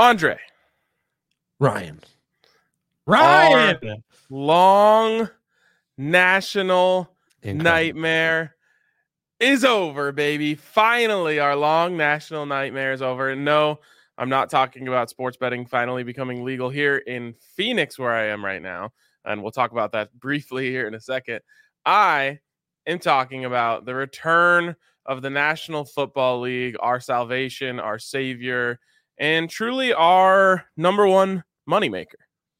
Andre. Ryan. Our long national nightmare is over, baby. Finally, our long national nightmare is over. And no, I'm not talking about sports betting finally becoming legal here in Phoenix, where I am right now. And we'll talk about that briefly here in a second. I am talking about the return of the National Football League, our salvation, our savior, and truly our number one moneymaker.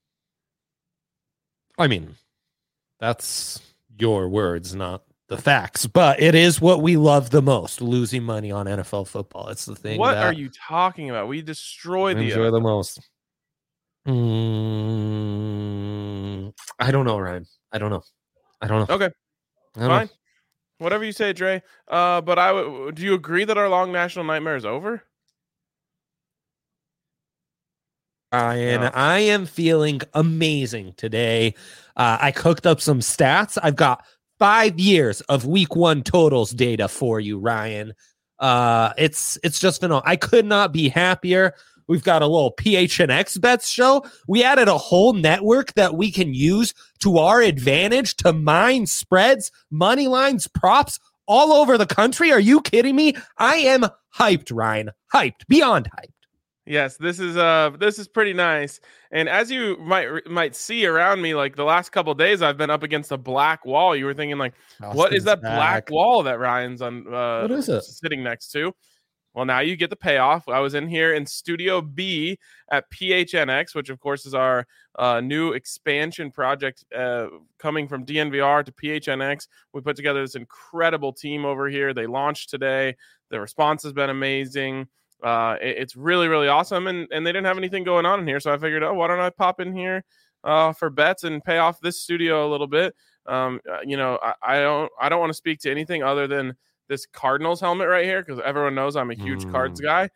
I mean, that's your words, not the facts, but it is what we love the most, losing money on NFL football. It's the thing. What are you talking about? We destroyed the enjoy the most. I don't know, Ryan. I don't know. Okay, fine. Whatever you say, Dre. But do you agree that our long national nightmare is over? I am feeling amazing today. I cooked up some stats. I've got 5 years of week 1 totals data for you, Ryan. It's just phenomenal. I could not be happier. We've got a little PHNX bets show. We added a whole network that we can use to our advantage to mine spreads, money lines, props all over the country. Are you kidding me? I am hyped, Ryan. Hyped. Beyond hyped. Yes, this is pretty nice. And as you might see around me, like the last couple of days, I've been up against a black wall. You were thinking, like, what is that black wall that Ryan's on? What is it? Sitting next to? Well, now you get the payoff. I was in here in Studio B at PHNX, which of course is our new expansion project coming from DNVR to PHNX. We put together this incredible team over here. They launched today. The response has been amazing. It's really, really awesome. And they didn't have anything going on in here. So I figured, why don't I pop in here for bets and pay off this studio a little bit? I don't want to speak to anything other than this Cardinals helmet right here, because everyone knows I'm a huge Cards guy.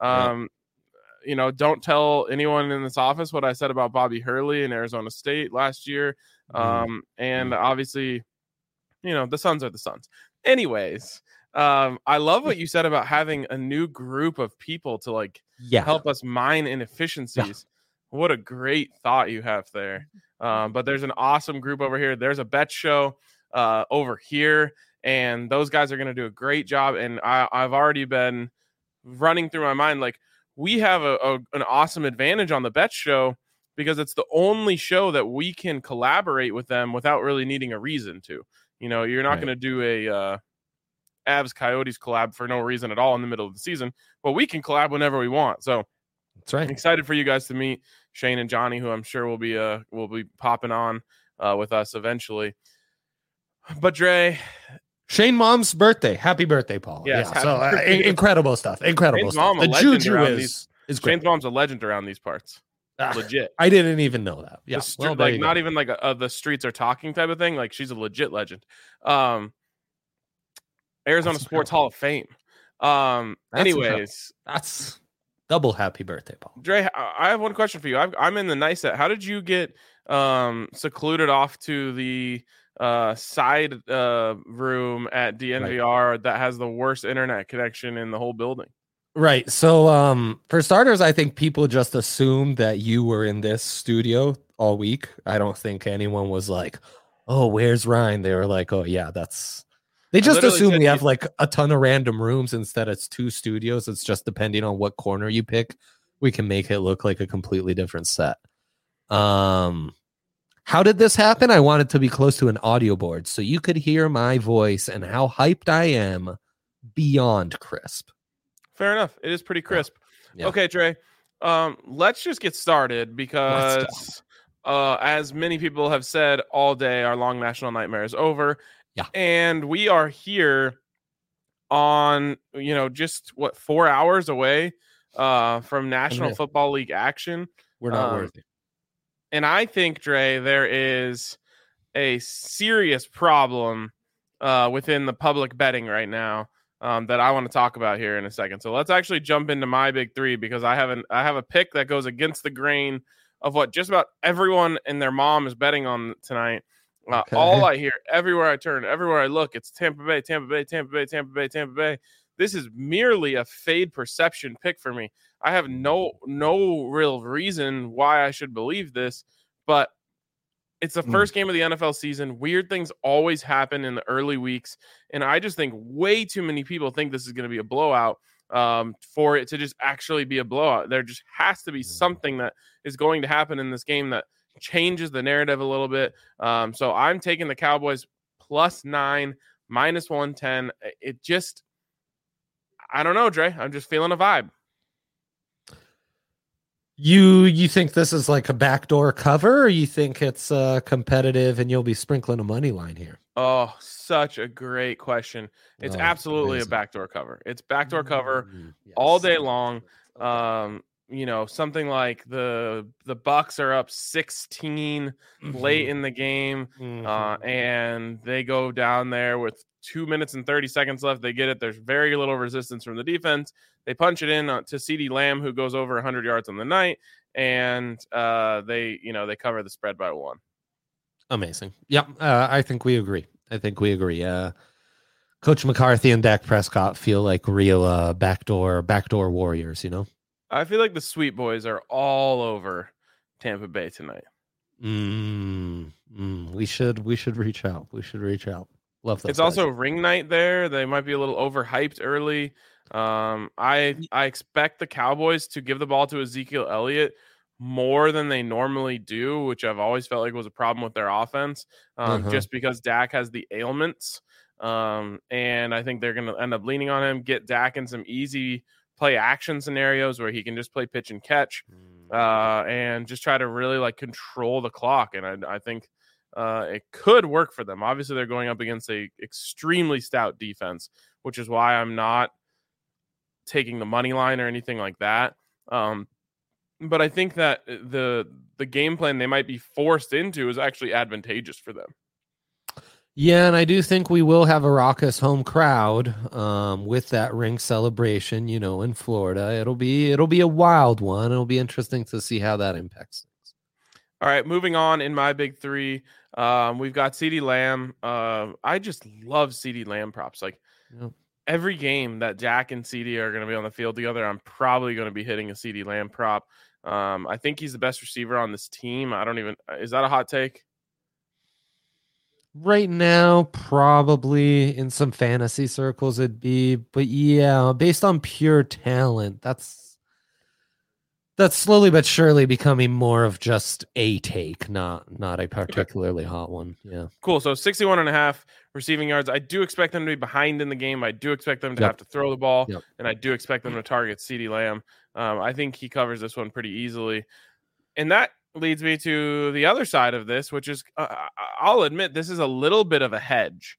Don't tell anyone in this office what I said about Bobby Hurley in Arizona State last year. And obviously, the Suns are the Suns. Anyways, I love what you said about having a new group of people to help us mine inefficiencies. What a great thought you have there. But there's an awesome group over here. There's a bet show over here, and those guys are going to do a great job. And I've already been running through my mind, like, we have an awesome advantage on the bet show because it's the only show that we can collaborate with them without really needing a reason to. You're not going to do a Avs Coyotes collab for no reason at all in the middle of the season, but we can collab whenever we want. So that's right. I'm excited for you guys to meet Shane and Johnny, who I'm sure will be popping on with us eventually. But Dre, Shane mom's birthday. Happy birthday, Paul. Yes, yeah. So incredible stuff. Incredible stuff. The juju is great. Shane's mom's a legend around these parts. Legit. I didn't even know that. Yeah. Not even like the streets are talking type of thing. Like, she's a legit legend. Arizona Sports Hall of Fame. Anyways, that's double happy birthday, Paul. Dre, I have one question for you. I'm in the nice set. How did you get secluded off to the side room at DNVR that has the worst internet connection in the whole building? Right. So for starters, I think people just assumed that you were in this studio all week. I don't think anyone was like, oh, where's Ryan? They were like, oh, yeah, they just assume we have like a ton of random rooms. Instead, it's 2 studios. It's just depending on what corner you pick, we can make it look like a completely different set. How did this happen? I wanted to be close to an audio board so you could hear my voice and how hyped I am beyond crisp. Fair enough. It is pretty crisp. Yeah. Okay, Trey. Let's just get started because as many people have said all day, our long national nightmare is over. Yeah. And we are here on, just 4 hours away from National Football League action. We're not worthy. And I think, Dre, there is a serious problem within the public betting right now that I want to talk about here in a second. So let's actually jump into my big 3 because I have a pick that goes against the grain of what just about everyone and their mom is betting on tonight. All I hear, everywhere I turn, everywhere I look, it's Tampa Bay, Tampa Bay, Tampa Bay, Tampa Bay, Tampa Bay. this is merely a fade perception pick for me. I have no real reason why I should believe this, but it's the first game of the NFL season. Weird things always happen in the early weeks, and I just think way too many people think this is going to be a blowout for it to just actually be a blowout. There just has to be something that is going to happen in this game that changes the narrative a little bit. So I'm taking the Cowboys +9, -110. It just, I don't know, Dre. I'm just feeling a vibe. You think this is like a backdoor cover, or you think it's competitive and you'll be sprinkling a money line here? Oh, such a great question. It's absolutely a backdoor cover. It's backdoor cover all day long. Something like the Bucks are up 16 late in the game, and they go down there with 2 minutes and 30 seconds left. They get it. There's very little resistance from the defense. They punch it in to CeeDee Lamb, who goes over 100 yards on the night, and they cover the spread by 1. Amazing. Yep. I think we agree. Coach McCarthy and Dak Prescott feel like real backdoor warriors, I feel like the Sweet Boys are all over Tampa Bay tonight. We should reach out. Love that. It's also ring night there. They might be a little overhyped early. I expect the Cowboys to give the ball to Ezekiel Elliott more than they normally do, which I've always felt like was a problem with their offense, just because Dak has the ailments. And I think they're going to end up leaning on him, get Dak in some easy play action scenarios where he can just play pitch and catch, and just try to really control the clock. And I think it could work for them. Obviously, they're going up against a extremely stout defense, which is why I'm not taking the money line or anything like that. But I think that the game plan they might be forced into is actually advantageous for them. Yeah, and I do think we will have a raucous home crowd with that ring celebration, in Florida. It'll be a wild one. It'll be interesting to see how that impacts things. All right, moving on in my big three, we've got CeeDee Lamb. I just love CeeDee Lamb props. Every game that Jack and CeeDee are going to be on the field together, I'm probably going to be hitting a CeeDee Lamb prop. I think he's the best receiver on this team. Is that a hot take? Right now, probably in some fantasy circles it'd be, but yeah, based on pure talent, that's slowly but surely becoming more of just a take, not a particularly hot one. Yeah. Cool. So 61.5 receiving yards. I do expect them to be behind in the game. I do expect them to have to throw the ball, and I do expect them to target CeeDee Lamb. I think he covers this one pretty easily. And that leads me to the other side of this, which is, I'll admit, this is a little bit of a hedge.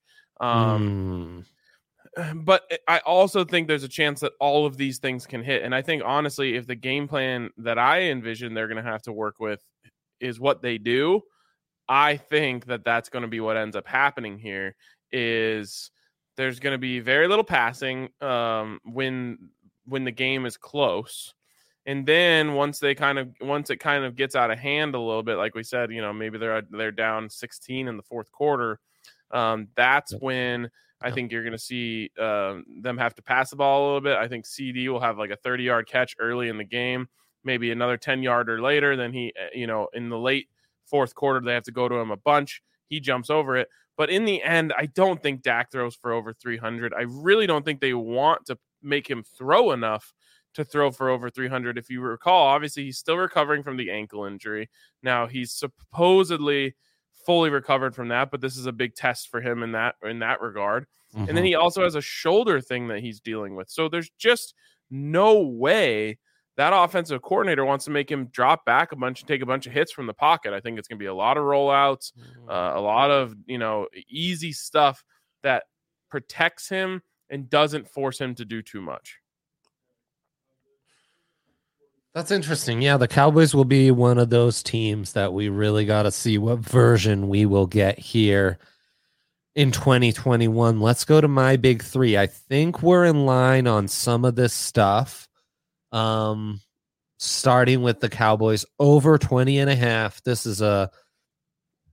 But I also think there's a chance that all of these things can hit. And I think, honestly, if the game plan that I envision they're going to have to work with is what they do, I think that that's going to be what ends up happening here. Is there's going to be very little passing when the game is close. And then once it kind of gets out of hand a little bit, like we said, maybe they're down 16 in the fourth quarter. That's when I think you're going to see them have to pass the ball a little bit. I think CeeDee will have like a 30-yard catch early in the game, maybe another 10-yarder later. Then he, in the late fourth quarter, they have to go to him a bunch. He jumps over it. But in the end, I don't think Dak throws for over 300. I really don't think they want to make him throw enough to throw for over 300. If you recall, obviously he's still recovering from the ankle injury. Now he's supposedly fully recovered from that, but this is a big test for him in that regard. And then he also has a shoulder thing that he's dealing with. So there's just no way that offensive coordinator wants to make him drop back a bunch and take a bunch of hits from the pocket. I think it's going to be a lot of rollouts, a lot of, easy stuff that protects him and doesn't force him to do too much. That's interesting. Yeah, the Cowboys will be one of those teams that we really got to see what version we will get here in 2021. Let's go to my big three. I think we're in line on some of this stuff. Starting with the Cowboys over 20.5. This is a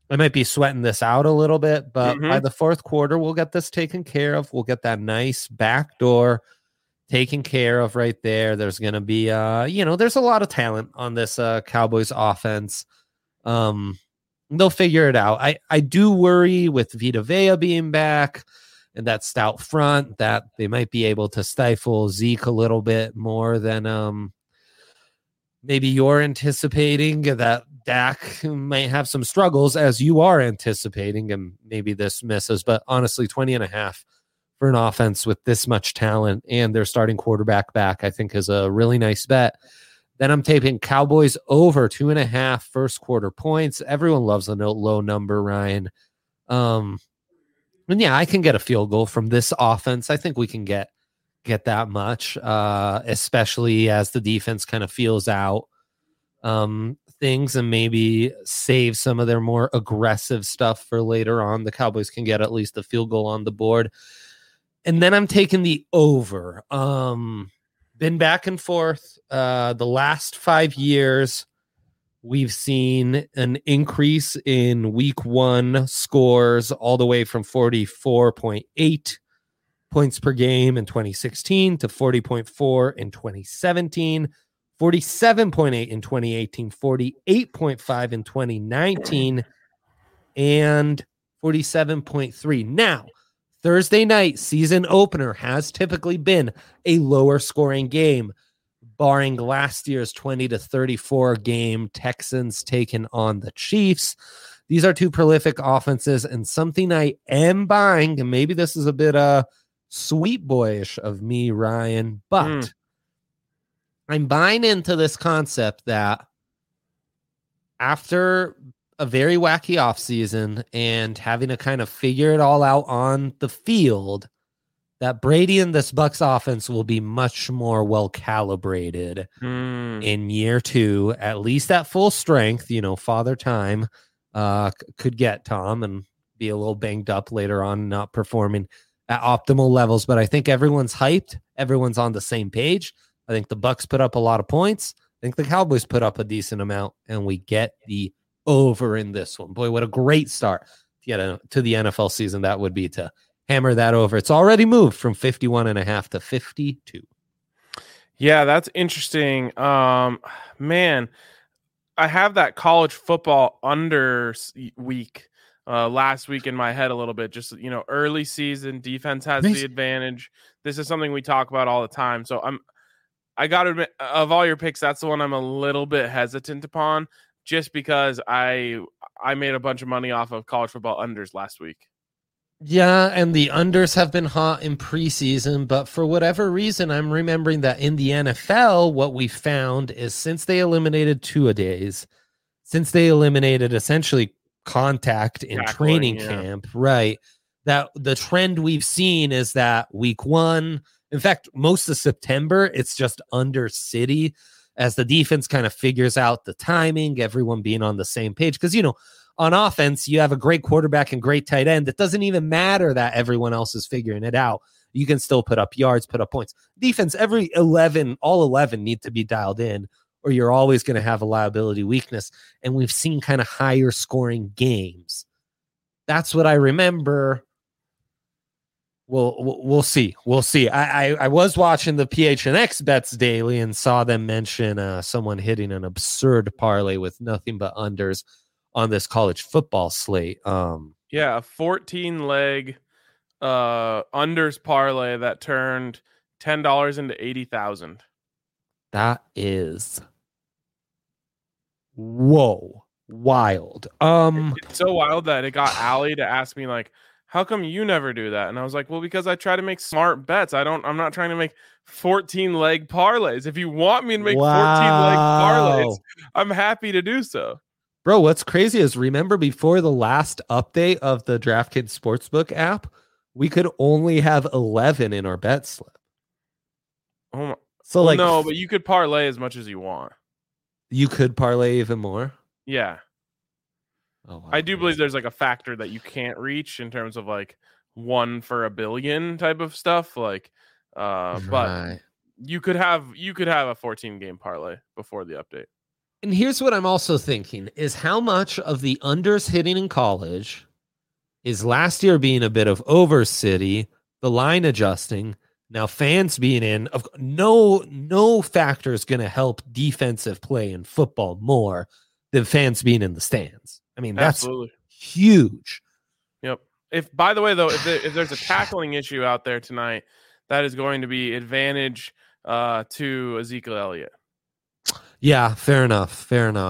I might be sweating this out a little bit, but by Mm-hmm. the fourth quarter, we'll get this taken care of. We'll get that nice back door taken care of right there. There's going to be, there's a lot of talent on this Cowboys offense. They'll figure it out. I do worry with Vita Vea being back and that stout front that they might be able to stifle Zeke a little bit more than maybe you're anticipating, that Dak might have some struggles as you are anticipating, and maybe this misses. But honestly, 20.5 for an offense with this much talent and their starting quarterback back, I think is a really nice bet. Then I'm taping Cowboys over 2.5 first quarter points. Everyone loves a low number, Ryan. And yeah, I can get a field goal from this offense. I think we can get that much, especially as the defense kind of feels out things and maybe save some of their more aggressive stuff for later on. The Cowboys can get at least a field goal on the board. And then I'm taking the over. Been back and forth. The last 5 years, we've seen an increase in week 1 scores all the way from 44.8 points per game in 2016 to 40.4 in 2017, 47.8 in 2018, 48.5 in 2019, and 47.3. Now, Thursday night season opener has typically been a lower scoring game, barring last year's 20-34 game Texans taking on the Chiefs. These are two prolific offenses, and something I am buying, and maybe this is a bit sweet boyish of me, Ryan, but I'm buying into this concept that after a very wacky offseason and having to kind of figure it all out on the field, that Brady and this Bucs offense will be much more well calibrated in year 2, at least at full strength. Father Time could get Tom and be a little banged up later on, not performing at optimal levels. But I think everyone's hyped. Everyone's on the same page. I think the Bucs put up a lot of points. I think the Cowboys put up a decent amount, and we get the over in this one. Boy, what a great start to the NFL season that would be, to hammer that over. It's already moved from 51.5 to 52. Yeah, that's interesting. Man, I have that college football under week last week in my head a little bit. Just, early season defense has the advantage. This is something we talk about all the time. So I got to admit, of all your picks, that's the one I'm a little bit hesitant upon, just because I made a bunch of money off of college football unders last week. Yeah, and the unders have been hot in preseason, but for whatever reason, I'm remembering that in the NFL, what we found is since they eliminated two-a-days, since they eliminated essentially contact in training camp, right, that the trend we've seen is that week 1, in fact, most of September, it's just under city as the defense kind of figures out the timing, everyone being on the same page. Because, on offense, you have a great quarterback and great tight end. It doesn't even matter that everyone else is figuring it out. You can still put up yards, put up points. Defense, all 11 need to be dialed in, or you're always going to have a liability weakness. And we've seen kind of higher scoring games. That's what I remember. We'll see. We'll see. I was watching the PHNX bets daily and saw them mention someone hitting an absurd parlay with nothing but unders on this college football slate. A 14-leg unders parlay that turned $10 into 80,000. That is wild. It's so wild that it got Allie to ask me, like, how come you never do that? And I was like, well, because I try to make smart bets. I'm not trying to make 14-leg parlays. If you want me to make 14-leg parlays, I'm happy to do so. Bro, what's crazy is, remember before the last update of the DraftKings Sportsbook app, we could only have 11 in our bet slip. Oh my. So no, but you could parlay as much as you want. You could parlay even more? Yeah. Oh, wow. I do believe there's like a factor that you can't reach in terms of like 1 for a billion type of stuff. Like, but you could have a 14-game parlay before the update. And here's what I'm also thinking is how much of the unders hitting in college is last year being a bit of over city, the line adjusting, now fans being in. No factor is going to help defensive play in football more than fans being in the stands. I mean, that's Absolutely huge. Yep. If by the way though, if there's a tackling issue out there tonight, that is going to be advantage to Ezekiel Elliott. Yeah, fair enough.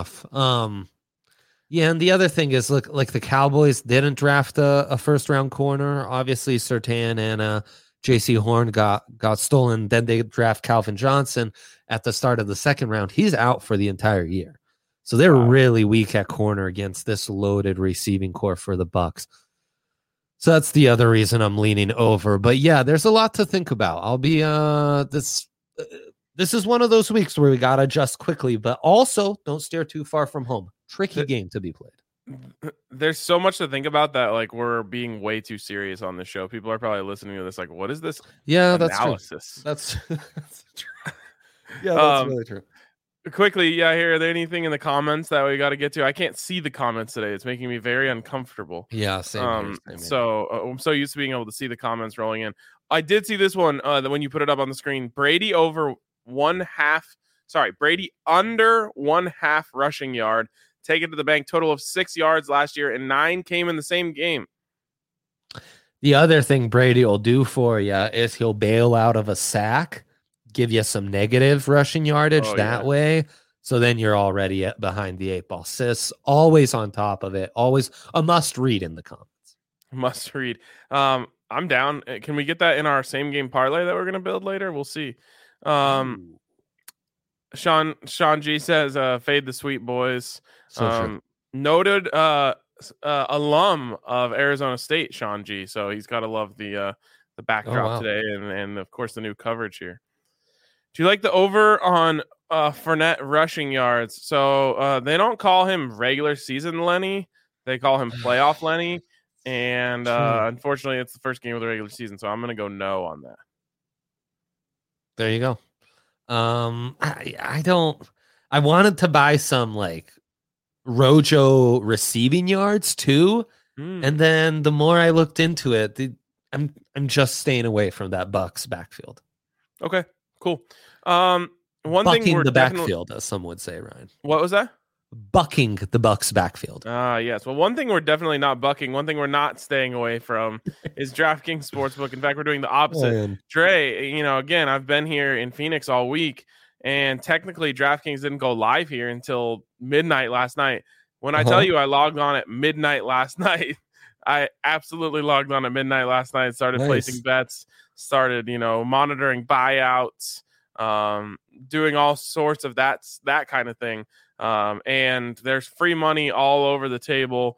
Yeah, and the other thing is, look, like the Cowboys didn't draft a first round corner. Obviously, Surtain and J.C. Horn got stolen. Then they draft Calvin Johnson at the start of the second round. He's out for the entire year, so they're really weak at corner against this loaded receiving core for the Bucs. So that's the other reason I'm leaning over. But yeah, there's a lot to think about. I'll be this is one of those weeks where we got to adjust quickly, but also don't steer too far from home. Tricky game to be played. There's so much to think about that, like we're being way too serious on this show. People are probably listening to this like, what is this? Yeah, analysis? That's true. That's true. Yeah, that's really true. Quickly, yeah, here, are there anything in the comments that we got to get to? I can't see the comments today. It's making me very uncomfortable. Yeah, same here. So I'm so used to being able to see the comments rolling in. I did see this one when you put it up on the screen. Brady under 1.5 rushing yard. Take it to the bank. Total of 6 yards last year, and 9 came in the same game. The other thing Brady will do for you is he'll bail out of a sack, give you some negative rushing yardage way. So then you're already behind the 8 ball. Sis, always on top of it. Always a must read in the comments. Must read. I'm down. Can we get that in our same game parlay that we're going to build later? We'll see. Sean G says, fade the sweet boys. Noted alum of Arizona State, Sean G. So he's got to love the backdrop today and of course the new coverage here. Do you like the over on Fournette rushing yards? So they don't call him regular season Lenny. They call him playoff Lenny. And unfortunately, it's the first game of the regular season. So I'm going to go no on that. There you go. I wanted to buy some like Rojo receiving yards too. And then the more I looked into it, I'm just staying away from that Bucs backfield. Okay, cool. Bucking the backfield, as some would say, Ryan. What was that? Bucking the Bucs backfield. Yes. Well, one thing we're definitely not bucking, one thing we're not staying away from is DraftKings Sportsbook. In fact, we're doing the opposite. Dre, again, I've been here in Phoenix all week, and technically DraftKings didn't go live here until midnight last night. When I tell you I logged on at midnight last night, I absolutely logged on at midnight last night, started placing bets, started, monitoring buyouts, doing all sorts of that kind of thing. And there's free money all over the table.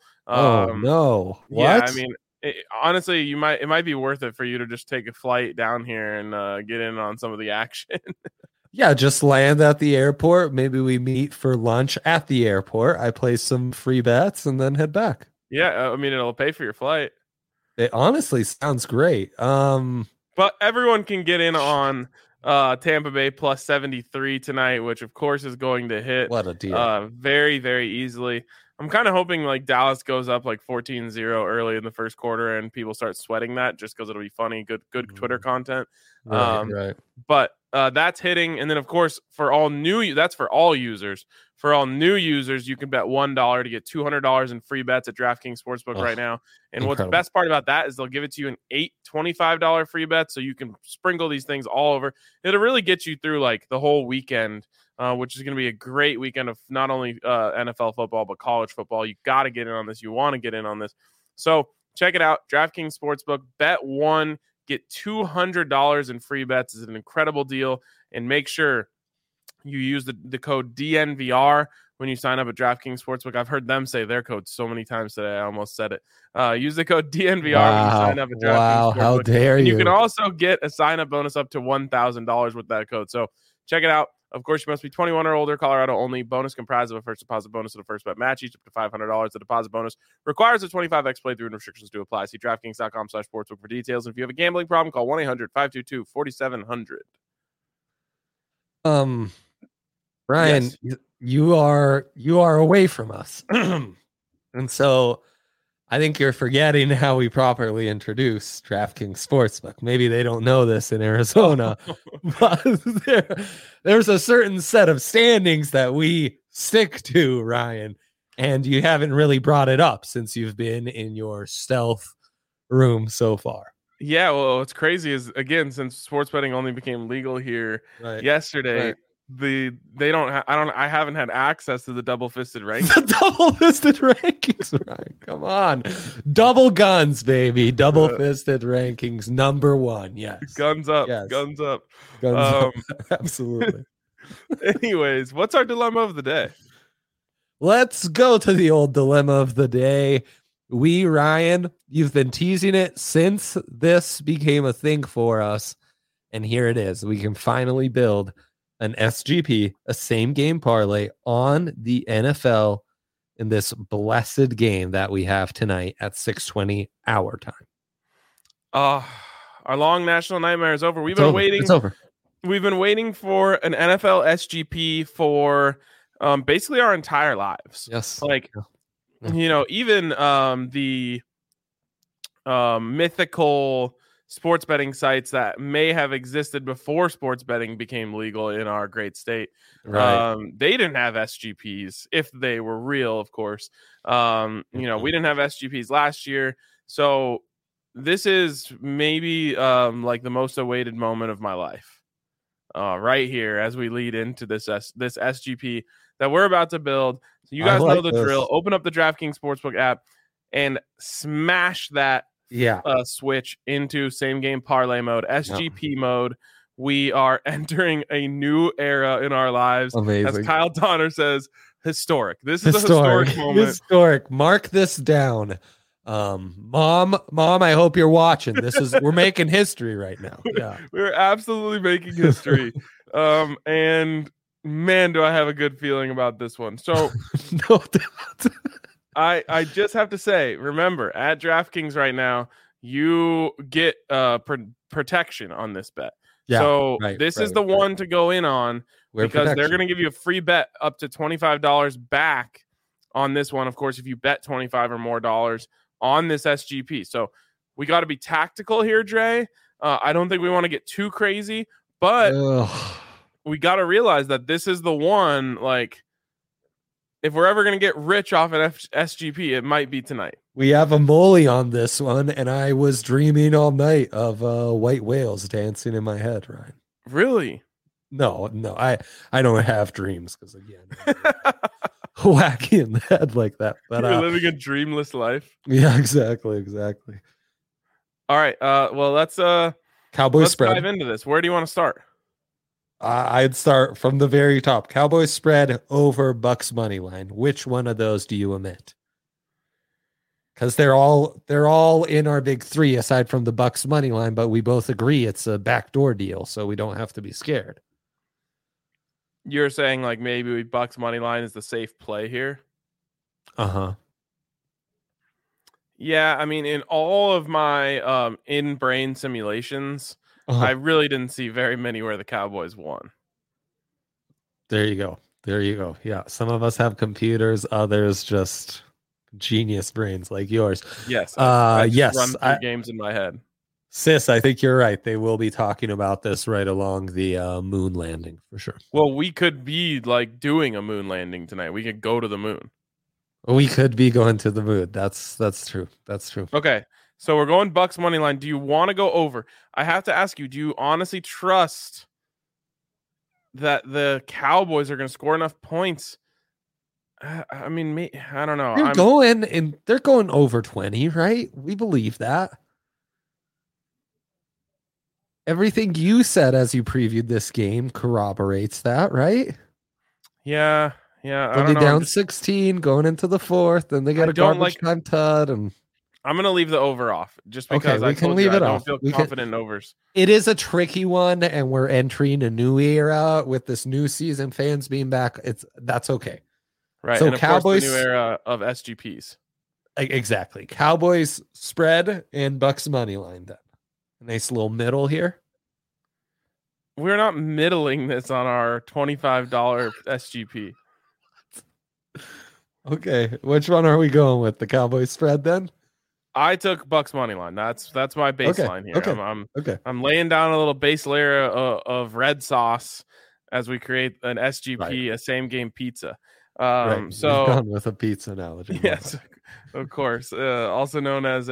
No. What? Yeah, I mean, honestly, it might be worth it for you to just take a flight down here and get in on some of the action. Yeah, just land at the airport. Maybe we meet for lunch at the airport. I play some free bets and then head back. Yeah, I mean, it'll pay for your flight. It honestly sounds great. But everyone can get in on Tampa Bay plus 73 tonight, which of course is going to hit. What a deal. Very, very easily. I'm kind of hoping like Dallas goes up like 14-0 early in the first quarter and people start sweating that just because it'll be funny, good Twitter content. Right. But that's hitting. And then of course for all users. For all new users, you can bet $1 to get $200 in free bets at DraftKings Sportsbook right now. And incredible. What's the best part about that is they'll give it to you in 8 $25 free bets, so you can sprinkle these things all over. It'll really get you through like the whole weekend, which is going to be a great weekend of not only NFL football but college football. You got to get in on this. You want to get in on this. So check it out. DraftKings Sportsbook. Bet $1, get $200 in free bets. Is an incredible deal, and make sure you use the code DNVR when you sign up at DraftKings Sportsbook. I've heard them say their code so many times today. I almost said it. Use the code DNVR when you sign up at DraftKings Sportsbook. How dare you. You can also get a sign-up bonus up to $1,000 with that code. So check it out. Of course, you must be 21 or older. Colorado only. Bonus comprised of a first deposit bonus and a first bet match, each up to $500. The deposit bonus requires a 25x playthrough and restrictions do apply. See DraftKings.com/sportsbook for details. And if you have a gambling problem, call 1-800-522-4700. Ryan, You are away from us. And so I think you're forgetting how we properly introduce DraftKings Sportsbook. Maybe they don't know this in Arizona, but there's a certain set of standings that we stick to, Ryan. And you haven't really brought it up since you've been in your stealth room so far. Yeah, well, what's crazy is, again, since sports betting only became legal here yesterday, I haven't had access to the double fisted rankings. The double fisted rankings, right? Come on. Double guns, baby. Double fisted rankings, number one. Yes. Guns up. Yes. Guns up. Guns up. Absolutely. Anyways, what's our dilemma of the day? Let's go to the old dilemma of the day. Ryan, you've been teasing it since this became a thing for us. And here it is. We can finally build an SGP, a same game parlay on the NFL in this blessed game that we have tonight at 6:20 our time. Our long national nightmare is over. We've been waiting. It's over. We've been waiting for an NFL SGP for basically our entire lives. Yes. Like, you know, even the mythical sports betting sites that may have existed before sports betting became legal in our great state. Right. They didn't have SGPs if they were real, of course. You know, we didn't have SGPs last year. So this is maybe like the most awaited moment of my life. Right here as we lead into this SGP that we're about to build. So you guys know the drill. Open up the DraftKings Sportsbook app and smash that switch into same game parlay mode, SGP mode. We are entering a new era in our lives. Amazing. As Kyle Donner says, historic. This is a historic moment. Historic. Mark this down. Mom, I hope you're watching. We're making history right now. Yeah. We're absolutely making history. And man, do I have a good feeling about this one. So no doubt. I just have to say, remember, at DraftKings right now, you get protection on this bet. Yeah, so this is the one to go in on because they're going to give you a free bet up to $25 back on this one. Of course, if you bet $25 or more dollars on this SGP. So we got to be tactical here, Dre. I don't think we want to get too crazy, but we got to realize that this is the one, like, if we're ever going to get rich off an SGP, it might be tonight. We have a molly on this one, and I was dreaming all night of white whales dancing in my head, Ryan. Really? No, I don't have dreams because, again, wacky in the head like that. But you're living a dreamless life. Yeah, exactly. All right. Well, let's spread. Dive into this. Where do you want to start? I'd start from the very top. Cowboys spread over Bucks money line. Which one of those do you omit? Because they're all in our big three aside from the Bucks money line, but we both agree it's a backdoor deal, so we don't have to be scared. You're saying like maybe Bucks money line is the safe play here? Yeah, I mean, in all of my in-brain simulations, I really didn't see very many where the Cowboys won. There you go. Yeah, some of us have computers, others just genius brains like yours. Yes. I run through I games in my head. Sis, I think you're right. They will be talking about this right along the moon landing for sure. Well, we could be like doing a moon landing tonight. We could go to the moon. We could be going to the moon. That's true. That's true. Okay. So we're going Bucks money line. Do you want to go over? I have to ask you, do you honestly trust that the Cowboys are going to score enough points? I mean, I don't know. They're going over 20, right? We believe that. Everything you said as you previewed this game corroborates that, right? Yeah. They'll be down 16 going into the fourth, and they got a garbage time tud. And I'm going to leave the over off just because I don't feel confident in overs. It is a tricky one, and we're entering a new era with this new season, fans being back. That's okay. Right. So and of Cowboys, course, the new era of SGPs. Exactly. Cowboys spread and Bucks money line. Then a nice little middle here. We're not middling this on our $25 SGP. Okay. Which one are we going with? The Cowboys spread then? I took Bucks money line. That's my Okay. baseline here. Okay. Okay. I'm laying down a little base layer of red sauce as we create an SGP, Right. a same game pizza. Right. We've So gone with a pizza analogy. Love yes, it. of course. Also known as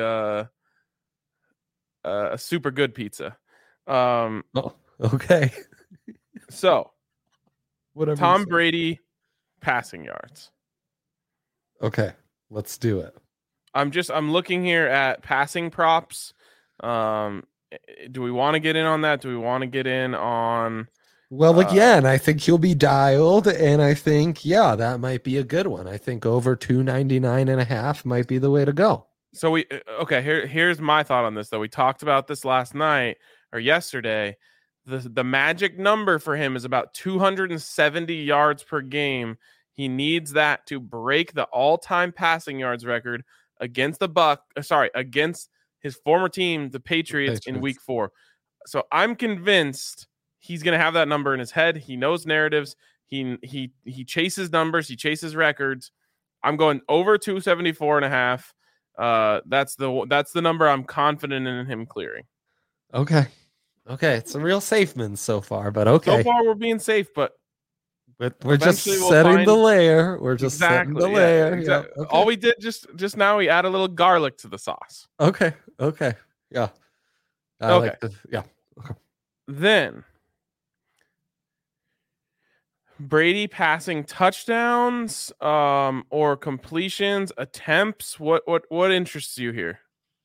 a super good pizza. Oh, okay. So Whatever you Tom say. Brady passing yards. Okay. Let's do it. I'm looking here at passing props. Do we want to get in on that? Do we want to get in on Well, again, I think he'll be dialed, and I think, yeah, that might be a good one. I think over 299.5 might be the way to go. So we okay, here's my thought on this though. We talked about this last night or yesterday. The magic number for him is about 270 yards per game. He needs that to break the all-time passing yards record against against his former team, the Patriots, in week 4. So I'm convinced he's going to have that number in his head. He knows narratives. He chases numbers. He chases records. I'm going over 274.5. That's the number I'm confident in him clearing. Okay. It's a real safe man so far, but okay. So far we're being safe, but we're just setting the layer. We're just setting the layer. Exactly. Yeah, okay. All we did just now, we add a little garlic to the sauce. Okay. Yeah. Okay. Okay. Then Brady passing touchdowns, or completions, attempts. What interests you here?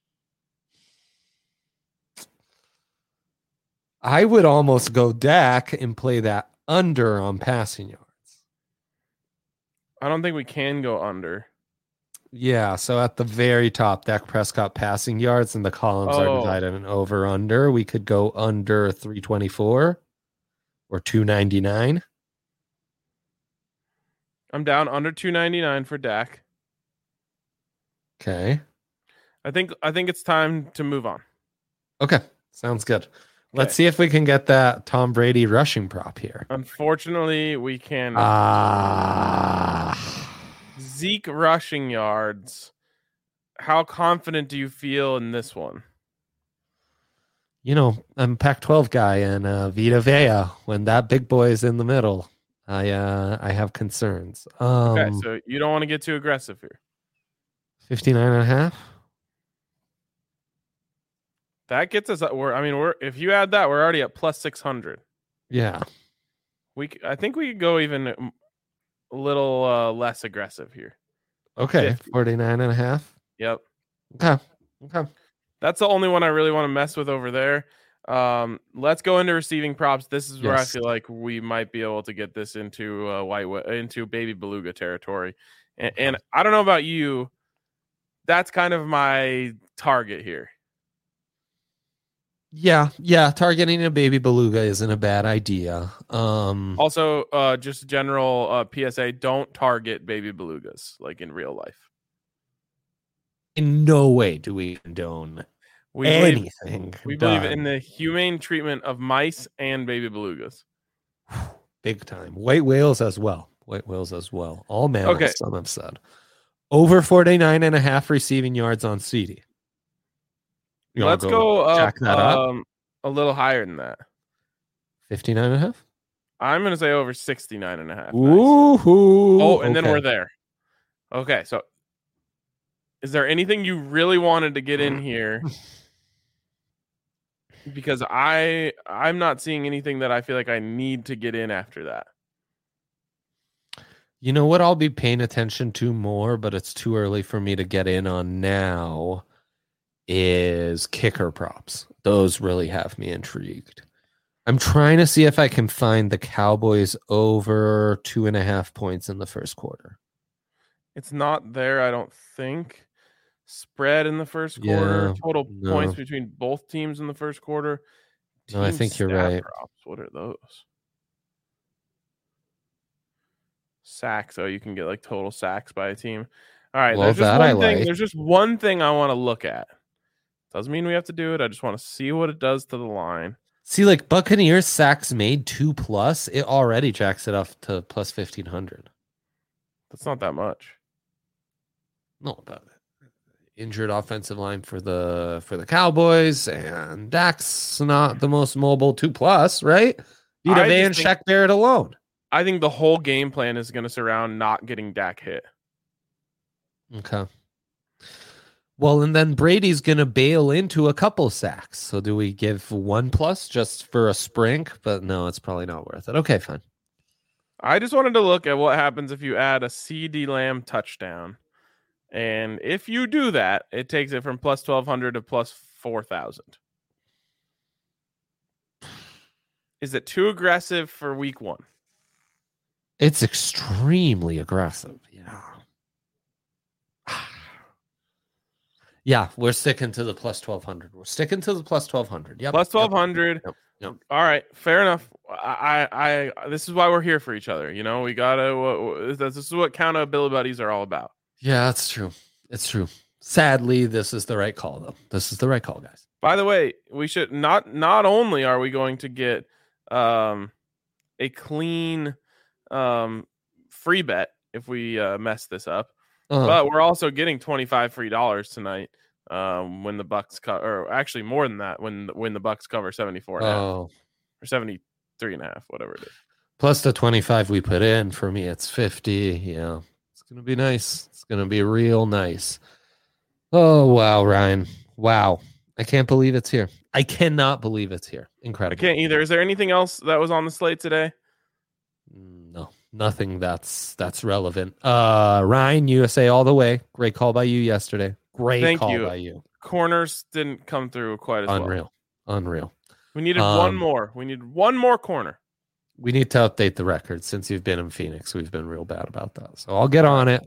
I would almost go Dak and play that under on passing yards. I don't think we can go under. Yeah, so at the very top, Dak Prescott passing yards, and the columns are divided in over under. We could go under 324 or 299. I'm down under 299 for Dak. Okay. I think it's time to move on. Okay, sounds good. Let's see if we can get that Tom Brady rushing prop here. Unfortunately, we can. Zeke rushing yards. How confident do you feel in this one? You know, I'm a Pac-12 guy, and Vita Vea, when that big boy is in the middle, I have concerns. Okay, so you don't want to get too aggressive here. 59.5. That gets us. We're if you add that, we're already at plus 600. Yeah, I think we could go even a little less aggressive here. Okay, 49.5. Yep. Okay. That's the only one I really want to mess with over there. Let's go into receiving props. This is where I feel like we might be able to get this into into baby beluga territory. And I don't know about you, that's kind of my target here. Yeah, targeting a baby beluga isn't a bad idea. Also, just general PSA, don't target baby belugas like in real life. In no way do we condone anything. We believe in the humane treatment of mice and baby belugas. Big time. White whales as well. All mammals, some have said. Over 49.5 receiving yards on CD. Let's go up, a little higher than that. 59.5? I'm going to say over 69.5. Ooh. Nice. Then we're there. Okay, so is there anything you really wanted to get in here? Because I'm not seeing anything that I feel like I need to get in after that. You know what I'll be paying attention to more, but it's too early for me to get in on now, is kicker props. Those really have me intrigued. I'm trying to see if I can find the Cowboys over 2.5 points in the first quarter. It's not there, I don't think. Spread in the first quarter. Total points between both teams in the first quarter. No, I think you're right. Props. What are those? Sacks. So you can get like total sacks by a team. All right. Well, There's just one thing I want to look at. Doesn't mean we have to do it. I just want to see what it does to the line. See, like Buccaneers sacks made 2+, it already jacks it up to plus 1,500. That's not that much. No, but injured offensive line for the Cowboys, and Dak's not the most mobile 2+, right? Vita Vea and Shaq Barrett alone. I think the whole game plan is going to surround not getting Dak hit. Okay. Well, and then Brady's going to bail into a couple sacks. So do we give 1+ just for a sprink? But no, it's probably not worth it. Okay, fine. I just wanted to look at what happens if you add a CeeDee Lamb touchdown. And if you do that, it takes it from plus 1,200 to plus 4,000. Is it too aggressive for week 1? It's extremely aggressive. Yeah. Yeah, we're sticking to the plus 1,200. We're sticking to the plus 1,200. Yep. Plus 1,200. Yep. All right, fair enough. I this is why we're here for each other. You know, we gotta. This is what accountability buddies are all about. Yeah, that's true. It's true. Sadly, this is the right call, though. This is the right call, guys. By the way, we should not only are we going to get a clean free bet if we mess this up, but we're also getting $25 free tonight when the Bucks or actually more than that when the Bucks cover 74.5 or 73.5, whatever it is. Plus the 25 we put in. For me, it's 50. Yeah, it's gonna be nice. It's gonna be real nice. Oh wow, Ryan! Wow, I can't believe it's here. I cannot believe it's here. Incredible. I can't either. Is there anything else that was on the slate today? No, nothing that's relevant. Ryan, USA all the way. Great call by you yesterday. Great call by you. Corners didn't come through quite as well. Unreal. We needed one more. We need one more corner. We need to update the record. Since you've been in Phoenix, we've been real bad about that. So I'll get on it.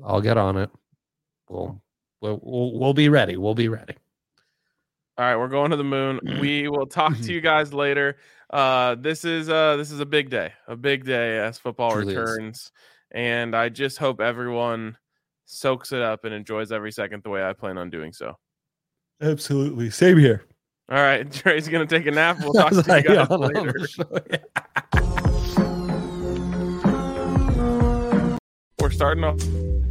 We'll be ready. We'll be ready. All right, we're going to the moon. We will talk to you guys later. This is a big day as football returns, and I just hope everyone soaks it up and enjoys every second the way I plan on doing so. Absolutely, same here. All right, Trey's gonna take a nap. We'll talk to you guys later. We're starting off.